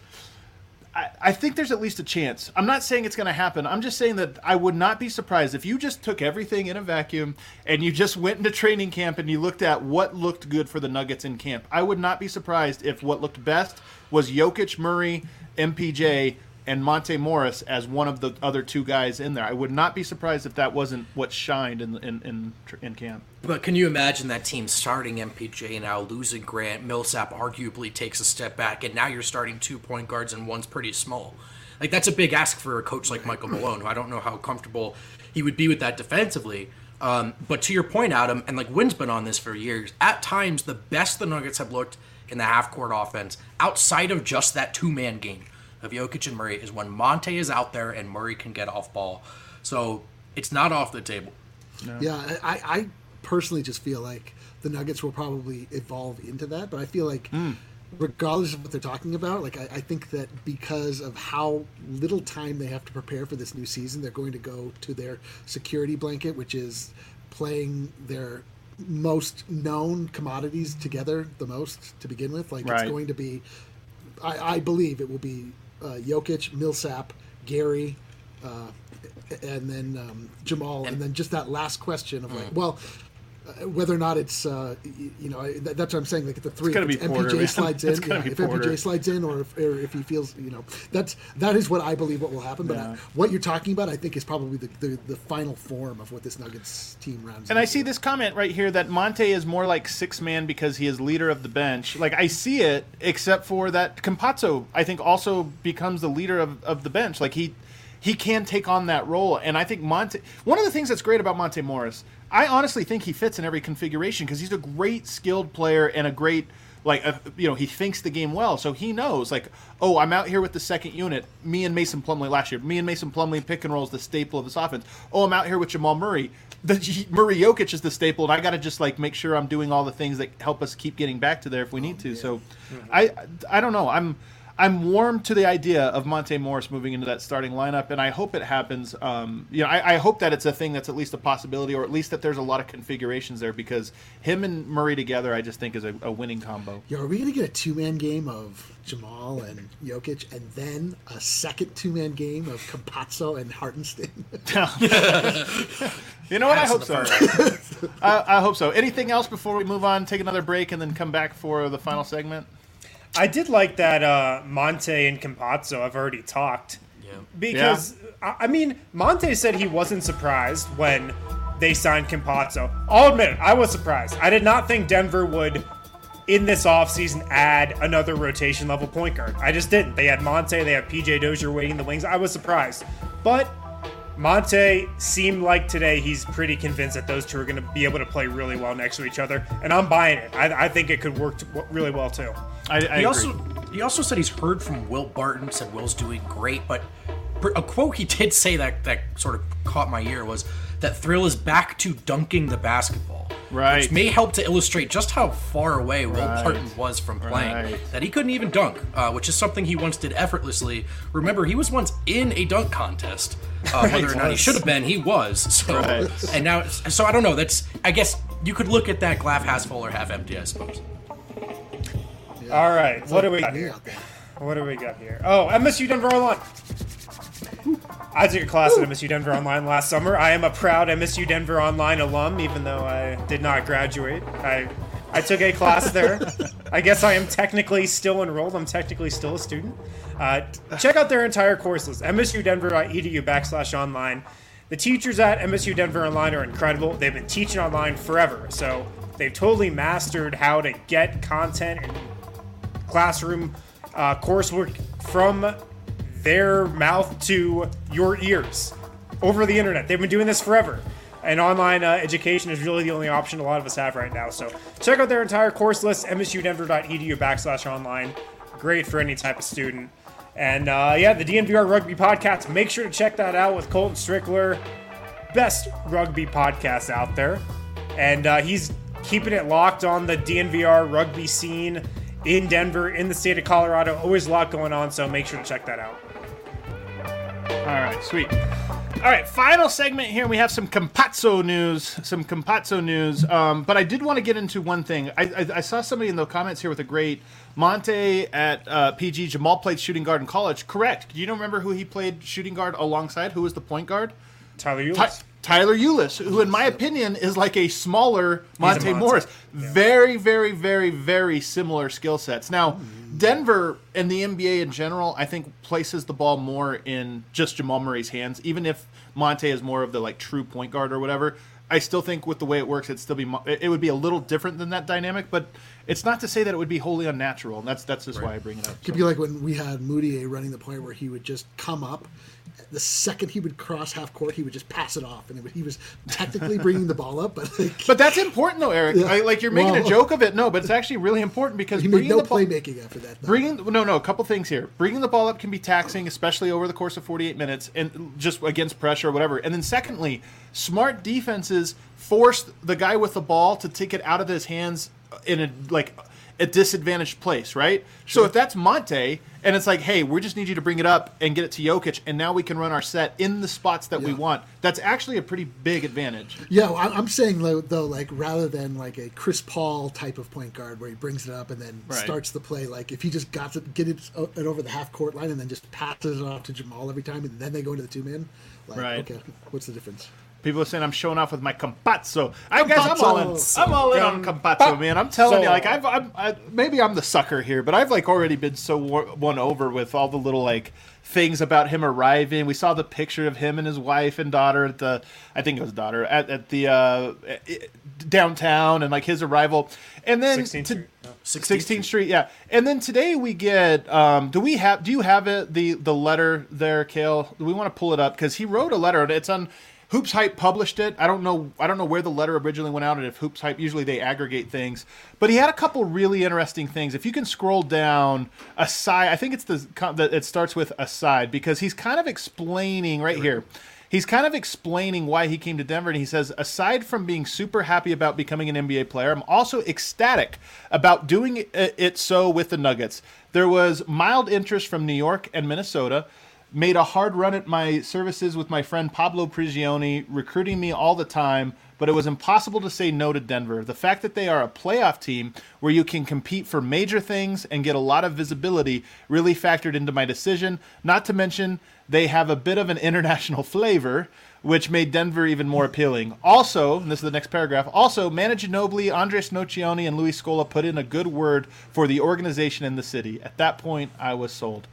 I think there's at least a chance. I'm not saying it's going to happen. I'm just saying that I would not be surprised if you just took everything in a vacuum and you just went into training camp and you looked at what looked good for the Nuggets in camp. I would not be surprised if what looked best was Jokic, Murray, M P J, and Monte Morris as one of the other two guys in there. I would not be surprised if that wasn't what shined in in in, in camp. But can you imagine that team starting M P J now, losing Grant? Millsap arguably takes a step back, and now you're starting two point guards and one's pretty small. Like, that's a big ask for a coach like Michael Malone, who I don't know how comfortable he would be with that defensively. Um, but to your point, Adam, and like Wynn's been on this for years, at times the best the Nuggets have looked in the half-court offense, outside of just that two-man game of Jokic and Murray is when Monte is out there and Murray can get off ball. So it's not off the table. No. Yeah, I, I personally just feel like the Nuggets will probably evolve into that, but I feel like mm. regardless of what they're talking about, like I, I think that because of how little time they have to prepare for this new season, they're going to go to their security blanket, which is playing their most known commodities together the most to begin with. Like right. It's going to be, I, I believe it will be uh, Jokic, Millsap, Gary, uh, and then um, Jamal, and then just that last question of like, well, uh, whether or not it's, uh, you, you know, that, that's what I'm saying. Like the three, if M P J Porter, slides in, yeah, if Porter. M P J slides in, or if, or if he feels, you know, that's that is what I believe what will happen. But yeah. I, what you're talking about, I think, is probably the, the, the final form of what this Nuggets team rounds. And into. I see this comment right here that Monte is more like six man because he is leader of the bench. Like I see it, except for that Campazzo, I think, also becomes the leader of, of the bench. Like he. He can take on that role, and I think Monte. One of the things that's great about Monte Morris, I honestly think he fits in every configuration because he's a great skilled player and a great, like, uh, you know, he thinks the game well, so he knows, like, oh, I'm out here with the second unit. Me and Mason Plumlee last year. Me and Mason Plumlee pick and roll is the staple of this offense. Oh, I'm out here with Jamal Murray. The Murray Jokic is the staple, and I got to just like make sure I'm doing all the things that help us keep getting back to there if we need to. So, mm-hmm. I, I don't know. I'm. I'm warm to the idea of Monte Morris moving into that starting lineup, and I hope it happens. Um, you know, I, I hope that it's a thing that's at least a possibility, or at least that there's a lot of configurations there, because him and Murray together, I just think is a, a winning combo. Yo, are we going to get a two-man game of Jamal and Jokic, and then a second two-man game of Campazzo and Hartenstein? You know what? I hope so. I, I hope so. Anything else before we move on, take another break, and then come back for the final segment? I did like that uh, Monte and Campazzo have already talked. Yeah. Because, yeah. I mean, Monte said he wasn't surprised when they signed Campazzo. I'll admit it, I was surprised. I did not think Denver would, in this offseason, add another rotation-level point guard. I just didn't. They had Monte, they had P J Dozier waiting in the wings. I was surprised. But Monte seemed like today he's pretty convinced that those two are going to be able to play really well next to each other, and I'm buying it. I, I think it could work t- really well too. I, I he agree. also he also said he's heard from Will Barton, said Will's doing great, but a quote he did say that that sort of caught my ear was that Thrill is back to dunking the basketball, right? Which may help to illustrate just how far away Will right. Barton was from playing. Right. That he couldn't even dunk, uh, which is something he once did effortlessly. Remember, he was once in a dunk contest. Uh, right, whether or not he should have been, he was. So, right. and now, so I don't know. That's I guess you could look at that glass half full or half empty, I suppose. Yeah. All right, what do we got here? What do we got here? Oh, M S U Denver Online. I took a class at M S U Denver Online last summer. I am a proud M S U Denver Online alum, even though I did not graduate. I I took a class there. I guess I am technically still enrolled. I'm technically still a student. Uh, check out their entire course list, msudenver.edu backslash online. The teachers at M S U Denver Online are incredible. They've been teaching online forever, so they've totally mastered how to get content and classroom uh, coursework from their mouth to your ears over the internet. They've been doing this forever. And online uh, education is really the only option a lot of us have right now. So check out their entire course list, msudenver.edu backslash online. Great for any type of student. And uh, yeah, the D N V R Rugby Podcast. Make sure to check that out with Colton Strickler. Best rugby podcast out there. And uh, he's keeping it locked on the D N V R rugby scene in Denver, in the state of Colorado. Always a lot going on, so make sure to check that out. All right, sweet. All right, final segment here. We have some Campazzo news, some Campazzo news. Um, but I did want to get into one thing. I, I, I saw somebody in the comments here with a great Monte at uh, P G. Jamal played shooting guard in college. Correct. Do you remember who he played shooting guard alongside? Who was the point guard? Tyler Ulis. Ty- Tyler Ulis, who in my opinion is like a smaller Monte, Monte. Morris. Yeah. Very, very, very, very similar skill sets. Now, Denver and the N B A in general, I think, places the ball more in just Jamal Murray's hands. Even if Monte is more of the like true point guard or whatever, I still think with the way it works, it'd still be it would be a little different than that dynamic. But it's not to say that it would be wholly unnatural, and that's that's just Right. why I bring it up. It could be like when we had Moutier running the point where he would just come up. The second he would cross half court, he would just pass it off, and it would, he was technically bringing the ball up, but like, But that's important, though, Eric. Yeah. I, like you're making Well- a joke of it, no, but it's actually really important because he made bringing no the ball, playmaking after that. though. bringing no, no, a couple things here. Bringing the ball up can be taxing, especially over the course of forty-eight minutes, and just against pressure or whatever. And then secondly, smart defenses force the guy with the ball to take it out of his hands in a like a disadvantaged place, right? So if that's Monte, and it's like, hey, we just need you to bring it up and get it to Jokic, and now we can run our set in the spots that we Yeah. want. That's actually a pretty big advantage. Yeah, well, I- I'm saying though, though, like rather than like a Chris Paul type of point guard where he brings it up and then Right. starts the play, like if he just got to get it, o- it over the half court line and then just passes it off to Jamal every time, and then they go into the two man, like Right. okay, what's the difference? People are saying I'm showing off with my compazzo. I guys, I'm all in. Compazzo. I'm all in on compazzo, man. I'm telling So- you, like I've, I'm, I, maybe I'm the sucker here, but I've like already been so wor- won over with all the little like things about him arriving. We saw the picture of him and his wife and daughter at the, I think it was daughter at, at the uh, downtown, and like his arrival, and then sixteenth to- Street. No. sixteenth Street, yeah. And then today we get. Um, do we have? Do you have it? The the letter there, Kale. Do we want to pull it up because he wrote a letter? and It's on. Hoops Hype published it. I don't know. I don't know where the letter originally went out, and if Hoops Hype usually they aggregate things. But he had a couple really interesting things. If you can scroll down aside, I think it's the that it starts with aside because he's kind of explaining right here. He's kind of explaining why he came to Denver, and he says, aside from being super happy about becoming an N B A player, I'm also ecstatic about doing it, it so with the Nuggets. There was mild interest from New York and Minnesota. Made a hard run at my services with my friend Pablo Prigioni, recruiting me all the time, but it was impossible to say no to Denver. The fact that they are a playoff team where you can compete for major things and get a lot of visibility really factored into my decision. Not to mention, they have a bit of an international flavor, which made Denver even more appealing. Also, and this is the next paragraph, also, Manu Ginobili, Andres Nocioni, and Luis Scola put in a good word for the organization and the city. At that point, I was sold.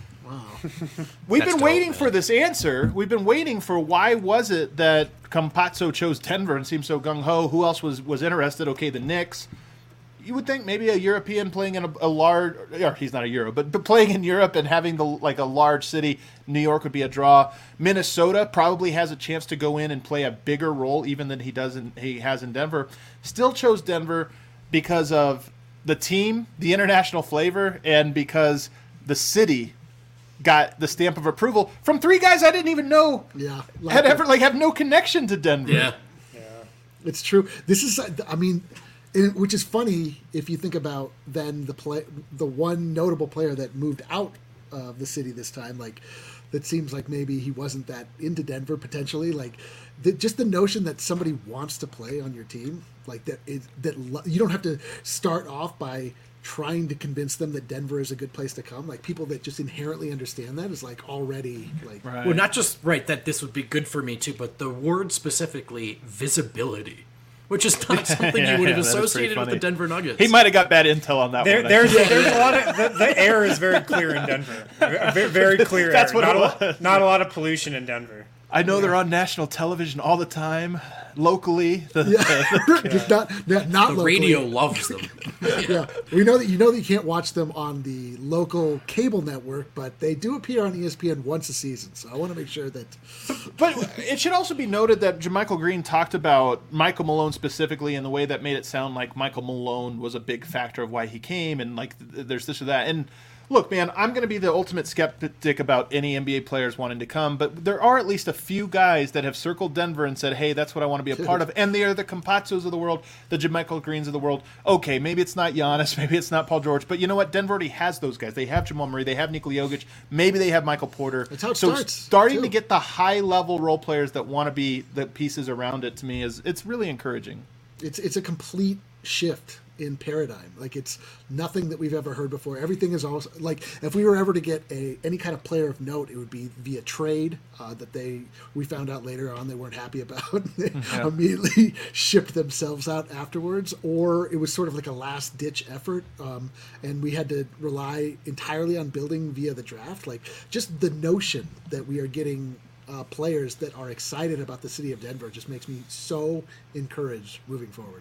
We've That's been dope, waiting man. for this answer. We've been waiting for why was it that Campazzo chose Denver and seemed so gung-ho? Who else was, was interested? Okay, the Knicks. You would think maybe a European playing in a, a large, or he's not a Euro, but, but playing in Europe and having the like a large city, New York would be a draw. Minnesota probably has a chance to go in and play a bigger role even than he does in, he has in Denver. Still chose Denver because of the team, the international flavor, and because the city got the stamp of approval from three guys I didn't even know Yeah, had like ever like have no connection to Denver. Yeah. It's true. This is, I mean, it, which is funny if you think about then the play, the one notable player that moved out of the city this time. Like, that seems like maybe he wasn't that into Denver potentially. Like, the, just the notion that somebody wants to play on your team, like that is that lo- you don't have to start off by trying to convince them that Denver is a good place to come. Like, people that just inherently understand that is like already like Right. Well, not just right that this would be good for me too, but the word specifically visibility, which is not something Yeah, you would have that is pretty associated with the funny. Denver Nuggets. He might have got bad intel on that There, one. there's there's a lot of the, the air is very clear in Denver. Very, very clear. That's air. what not it a lot, was. not a lot of pollution in Denver. I know they're on national television all the time, locally. The, Just not not, not the locally. radio loves them. Yeah, we know that you know that you can't watch them on the local cable network, but they do appear on E S P N once a season. So I want to make sure that But it should also be noted that JaMychal Green talked about Michael Malone specifically in the way that made it sound like Michael Malone was a big factor of why he came, and like th- there's this or that. And look, man, I'm going to be the ultimate skeptic about any N B A players wanting to come, but there are at least a few guys that have circled Denver and said, hey, that's what I want to be a part of. And they are the Campazzos of the world, the JaMychal Greens of the world. Okay, maybe it's not Giannis, maybe it's not Paul George, but you know what? Denver already has those guys. They have Jamal Murray, they have Nikola Jokic, maybe they have Michael Porter. That's how it so starts, starting too. to get the high-level role players that want to be the pieces around it, to me, is it's really encouraging. it's it's a complete shift in paradigm. Like, it's nothing that we've ever heard before. Everything is also like, if we were ever to get a any kind of player of note, it would be via trade uh, that they we found out later on they weren't happy about. They immediately shipped themselves out afterwards, or it was sort of like a last ditch effort, um, and we had to rely entirely on building via the draft. Like, just the notion that we are getting uh, players that are excited about the city of Denver just makes me so encouraged moving forward.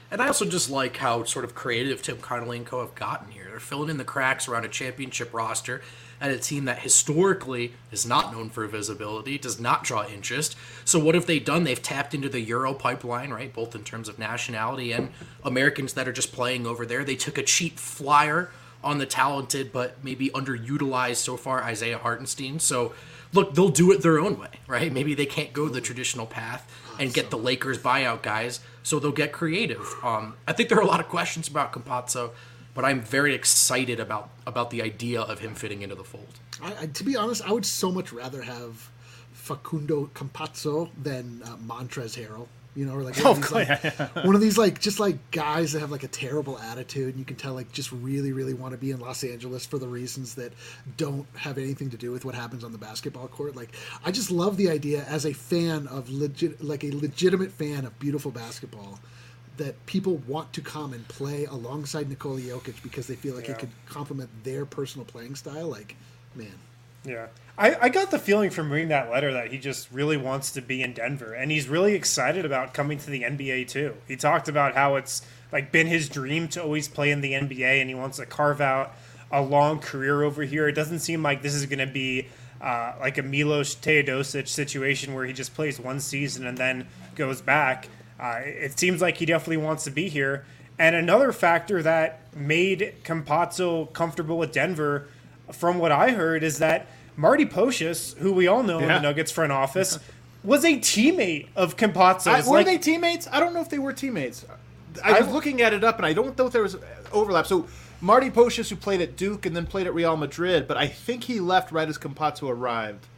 And I also just like how sort of creative Tim Connolly and co have gotten here. They're filling in the cracks around a championship roster and a team that historically is not known for visibility, does not draw interest. So what have they done? They've tapped into the Euro pipeline, right? Both in terms of nationality and Americans that are just playing over there. They took a cheap flyer on the talented but maybe underutilized so far Isaiah Hartenstein. So look, they'll do it their own way, right? Maybe they can't go the traditional path and get the Lakers buyout guys, so they'll get creative. Um, I think there are a lot of questions about Campazzo, but I'm very excited about about the idea of him fitting into the fold. I, I, to be honest, I would so much rather have Facundo Campazzo than uh, Montrezl Harrell. You know, or like, one, Oh, of these, like one of these like just like guys that have like a terrible attitude, and you can tell like just really, really want to be in Los Angeles for the reasons that don't have anything to do with what happens on the basketball court. Like, I just love the idea as a fan of legit, like a legitimate fan of beautiful basketball, that people want to come and play alongside Nikola Jokic because they feel like Yeah. it could complement their personal playing style. Like, man. Yeah. I, I got the feeling from reading that letter that he just really wants to be in Denver, and he's really excited about coming to the N B A too. He talked about how it's like been his dream to always play in the N B A, and he wants to carve out a long career over here. It doesn't seem like this is going to be uh, like a Milos Teodosic situation where he just plays one season and then goes back. Uh, it seems like he definitely wants to be here. And another factor that made Campazzo comfortable with Denver, from what I heard, is that Marty Pocious, who we all know in Yeah. the Nuggets front office, was a teammate of I, Campazzo's. were Like, they teammates? I don't know if they were teammates. I was I- looking at it up, and I don't know if there was overlap. So Marty Pocious, who played at Duke and then played at Real Madrid, but I think he left right as Campazzo arrived.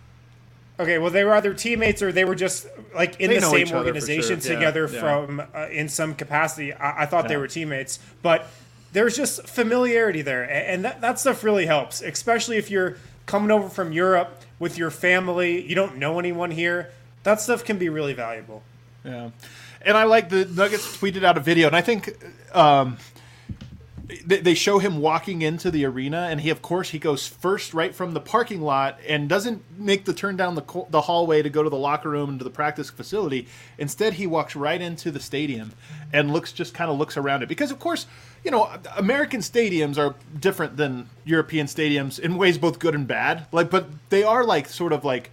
Okay, well, they were either teammates or they were just like in They the know same each other for organization sure. Yeah, together yeah. from uh, in some capacity. I, I thought they Yeah. were teammates, but there's just familiarity there, a- and that, that stuff really helps, especially if you're coming over from Europe with your family. You don't know anyone here. That stuff can be really valuable. Yeah, and I like the Nuggets tweeted out a video, and I think um, they, they show him walking into the arena, and he, of course, he goes first right from the parking lot and doesn't make the turn down the co- the hallway to go to the locker room and to the practice facility. Instead, he walks right into the stadium and looks just kind of looks around it because, of course, you know, American stadiums are different than European stadiums in ways both good and bad. Like, but they are like sort of like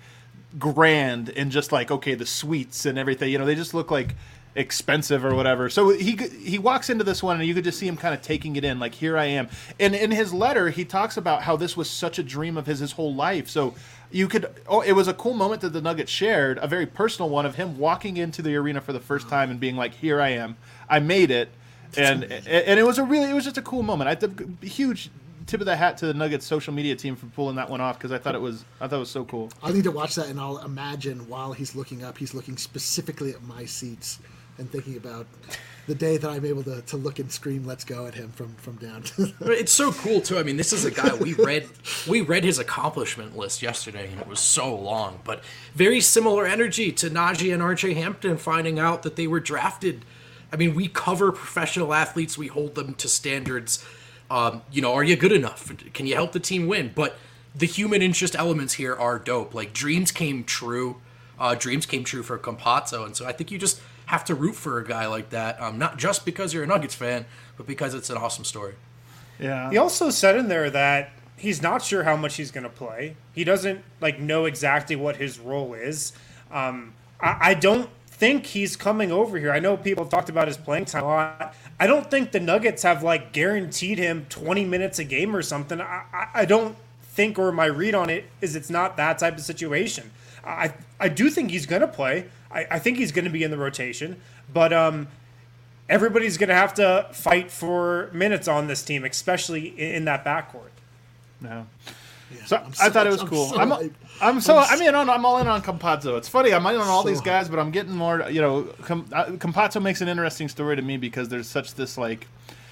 grand and just like, okay, the suites and everything, you know, they just look like expensive or whatever. So he he walks into this one and you could just see him kind of taking it in, like, here I am. And in his letter, he talks about how this was such a dream of his his whole life. So you could, oh, it was a cool moment that the Nuggets shared, a very personal one of him walking into the arena for the first time and being like, here I am, I made it. And and it was a really, it was just a cool moment. I think huge tip of the hat to the Nuggets social media team for pulling that one off because I thought it was, I thought it was so cool. I'll need to watch that, and I'll imagine while he's looking up, he's looking specifically at my seats and thinking about the day that I'm able to, to look and scream "Let's go" at him from from down. But it's so cool too. I mean, this is a guy we read we read his accomplishment list yesterday, and it was so long, but very similar energy to Najee and R J Hampton finding out that they were drafted. I mean, we cover professional athletes, we hold them to standards. Um, you know, are you good enough? Can you help the team win? But the human interest elements here are dope. Like, dreams came true. Uh, dreams came true for Campazzo, and so I think you just have to root for a guy like that, um, not just because you're a Nuggets fan, but because it's an awesome story. Yeah. He also said in there that he's not sure how much he's going to play. He doesn't like know exactly what his role is. Um, I, I don't think he's coming over here. I know people have talked about his playing time a lot. I don't think the Nuggets have like guaranteed him twenty minutes a game or something. I, I, I don't think, or my read on it is it's not that type of situation. I I do think he's going to play. I, I think he's going to be in the rotation, but um, everybody's going to have to fight for minutes on this team, especially in, in that backcourt. No. Yeah, So I'm I thought it was I'm cool. so I'm, hyped. I'm so I'm I'm in on I'm all in on Campazzo. It's funny. I'm in on all So these guys, but I'm getting more. You know, Com, uh, Campazzo makes an interesting story to me because there's such this like.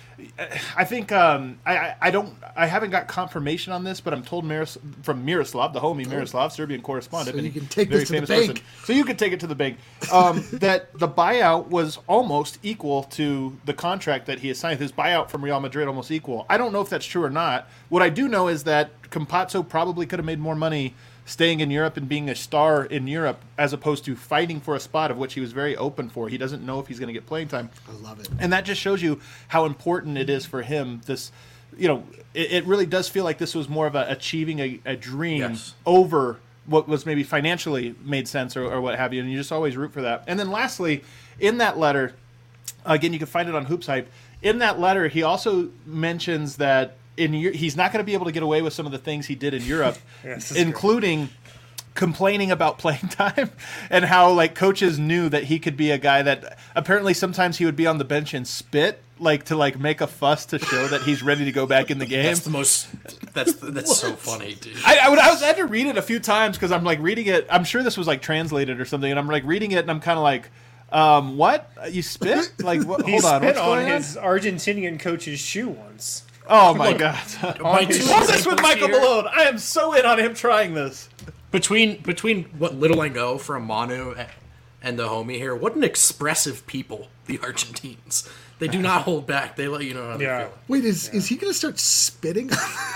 I think um, I, I I don't I haven't got confirmation on this, but I'm told Miros, from Miroslav, the homie Miroslav, Serbian correspondent, So you and can take very this to the famous bank. person. So you can take it to the bank. Um, that the buyout was almost equal to the contract that he has signed. His buyout from Real Madrid almost equal. I don't know if that's true or not. What I do know is that Campazzo probably could have made more money staying in Europe and being a star in Europe as opposed to fighting for a spot of which he was very open for. He doesn't know if he's going to get playing time. I love it. And that just shows you how important it is for him. This, you know, it, it really does feel like this was more of a achieving a, a dream Yes. over what was maybe financially made sense or, or what have you. And you just always root for that. And then lastly, in that letter, again, you can find it on Hoops Hype. In that letter, he also mentions that in he's not going to be able to get away with some of the things he did in Europe, Yes, that's including complaining about playing time and how like coaches knew that he could be a guy that apparently sometimes he would be on the bench and spit like to like make a fuss to show that he's ready to go back in the game. That's the most. That's that's so funny, dude. I, I, would, I was I had to read it a few times because I'm like reading it. I'm sure this was like translated or something, and I'm like reading it and I'm kind of like, um, what? You spit? Like, what, He hold on, spit what's on going on? his Argentinian coach's shoe once. Oh my god! My two What's this with examples Michael here- Malone? I am so in on him trying this. Between between what little I know from Manu and the homie here, what an expressive people the Argentines. They do not hold back. They let you know how they Yeah. feel. Wait, is is he going to start spitting?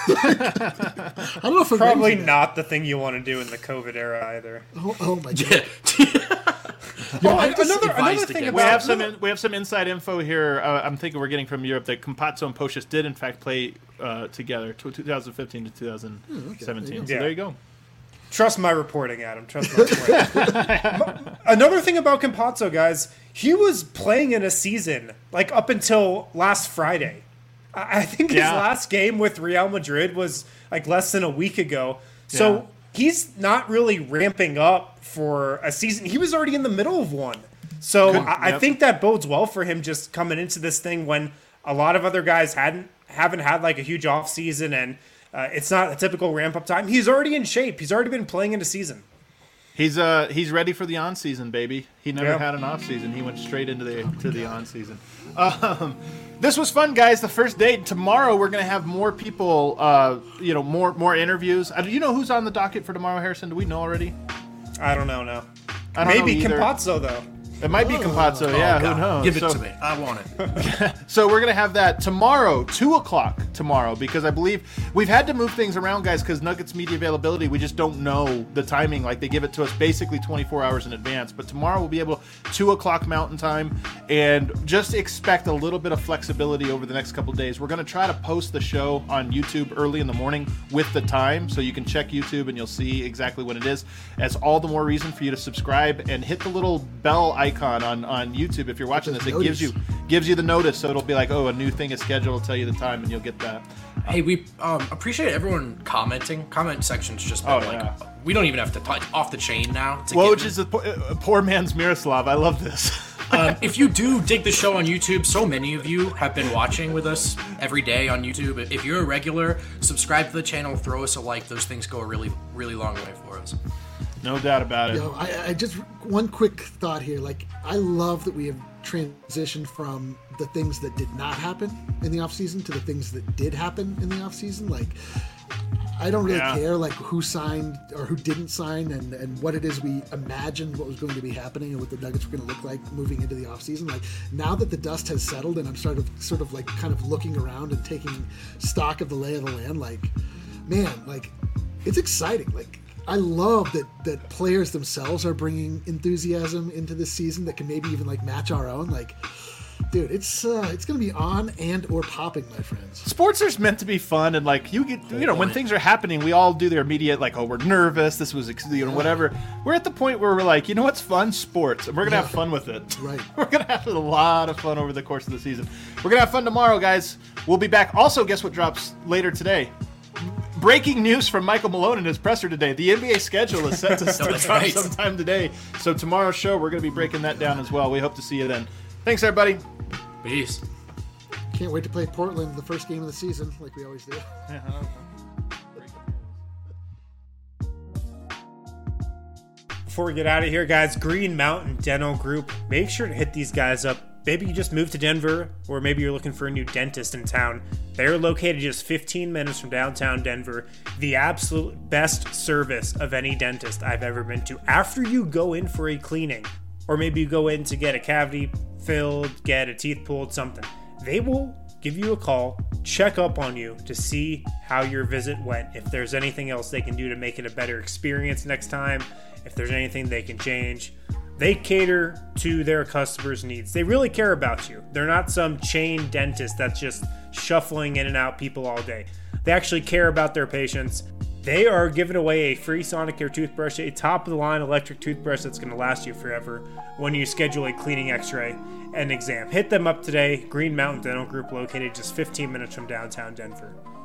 I don't know if I'm Probably ready for that. not the thing you want to do in the COVID era either. Oh, oh my god! Yeah. Yo, Oh, I just- another advised another thing against We about have some in, we have some inside info here. Uh, I'm thinking we're getting from Europe that Campazzo and Pocius did in fact play uh, together, to twenty fifteen to twenty seventeen. okay, there you go. So Yeah. there you go. Trust my reporting, Adam. Trust my reporting. Another thing about Campazzo, guys, he was playing in a season like up until last Friday. I I think his Yeah. last game with Real Madrid was like less than a week ago. So Yeah. he's not really ramping up for a season. He was already in the middle of one. So Good. I, I Yep. think that bodes well for him just coming into this thing when a lot of other guys hadn't haven't had like a huge off season and uh, it's not a typical ramp up time. He's already in shape. He's already been playing in a season. He's uh he's ready for the on season, baby. He never Yeah. had an off season. He went straight into the to the on season. Um, this was fun, guys. The first date. Tomorrow we're gonna have more people. Uh, you know, more more interviews. Uh, do you know who's on the docket for tomorrow, Harrison? Do we know already? I don't know now. I don't Maybe know either. Campazzo though. It might be Campazzo. yeah, Oh, God. who knows? Give it So- to me. I want it. So we're gonna have that tomorrow, two o'clock tomorrow, because I believe we've had to move things around, guys, because Nuggets media availability, we just don't know the timing. Like they give it to us basically twenty-four hours in advance. But tomorrow we'll be able two o'clock Mountain Time, and just expect a little bit of flexibility over the next couple of days. We're gonna try to post the show on YouTube early in the morning with the time, so you can check YouTube and you'll see exactly when it is. As all the more reason for you to subscribe and hit the little bell icon on on YouTube if you're watching this. It Notice. gives you gives you the notice, so it'll be like, oh, a new thing is scheduled. It'll tell you the time, and you'll get that. Hey, we um, appreciate everyone commenting. Comment section's just been Oh, like yeah. we don't even have to touch off the chain now. It's a Woj given. is a poor, a poor man's Miroslav. I love this. Um, if you do dig the show on YouTube, so many of you have been watching with us every day on YouTube. If you're a regular, subscribe to the channel, throw us a like. Those things go a really, really long way for us. No doubt about it. Yo, I, I just one quick thought here. Like, I love that we have transitioned from the things that did not happen in the off season to the things that did happen in the off season. Like, I don't really Yeah. care like who signed or who didn't sign and, and what it is we imagined what was going to be happening and what the Nuggets were going to look like moving into the offseason. Like now that the dust has settled and I'm sort of sort of like kind of looking around and taking stock of the lay of the land, like man, like it's exciting. Like I love that that players themselves are bringing enthusiasm into this season that can maybe even like match our own. Like, dude, it's uh, it's gonna be on and or popping, my friends. Sports are meant to be fun, and like you get, you know, when things are happening, we all do their immediate like, oh, we're nervous. This was, ex- you know, whatever. We're at the point where we're like, you know, what's fun? Sports, and we're gonna have fun with it. Right. We're gonna have a lot of fun over the course of the season. We're gonna have fun tomorrow, guys. We'll be back. Also, guess what drops later today? Breaking news from Michael Malone in his presser today. The N B A schedule is set to start that's drop right. sometime today. So tomorrow's show, we're gonna be breaking that down as well. We hope to see you then. Thanks, everybody. Peace. Can't wait to play Portland the first game of the season, like we always do. Before we get out of here, guys, Green Mountain Dental Group, make sure to hit these guys up. Maybe you just moved to Denver, or maybe you're looking for a new dentist in town. They're located just fifteen minutes from downtown Denver. The absolute best service of any dentist I've ever been to. After you go in for a cleaning, or maybe you go in to get a cavity filled, get a teeth pulled, something, they will give you a call, check up on you to see how your visit went, if there's anything else they can do to make it a better experience next time, if there's anything they can change. They cater to their customers' needs. They really care about you. They're not some chain dentist that's just shuffling in and out people all day. They actually care about their patients. They are giving away a free Sonicare toothbrush, a top-of-the-line electric toothbrush that's going to last you forever when you schedule a cleaning x-ray and exam. Hit them up today. Green Mountain Dental Group, located just fifteen minutes from downtown Denver.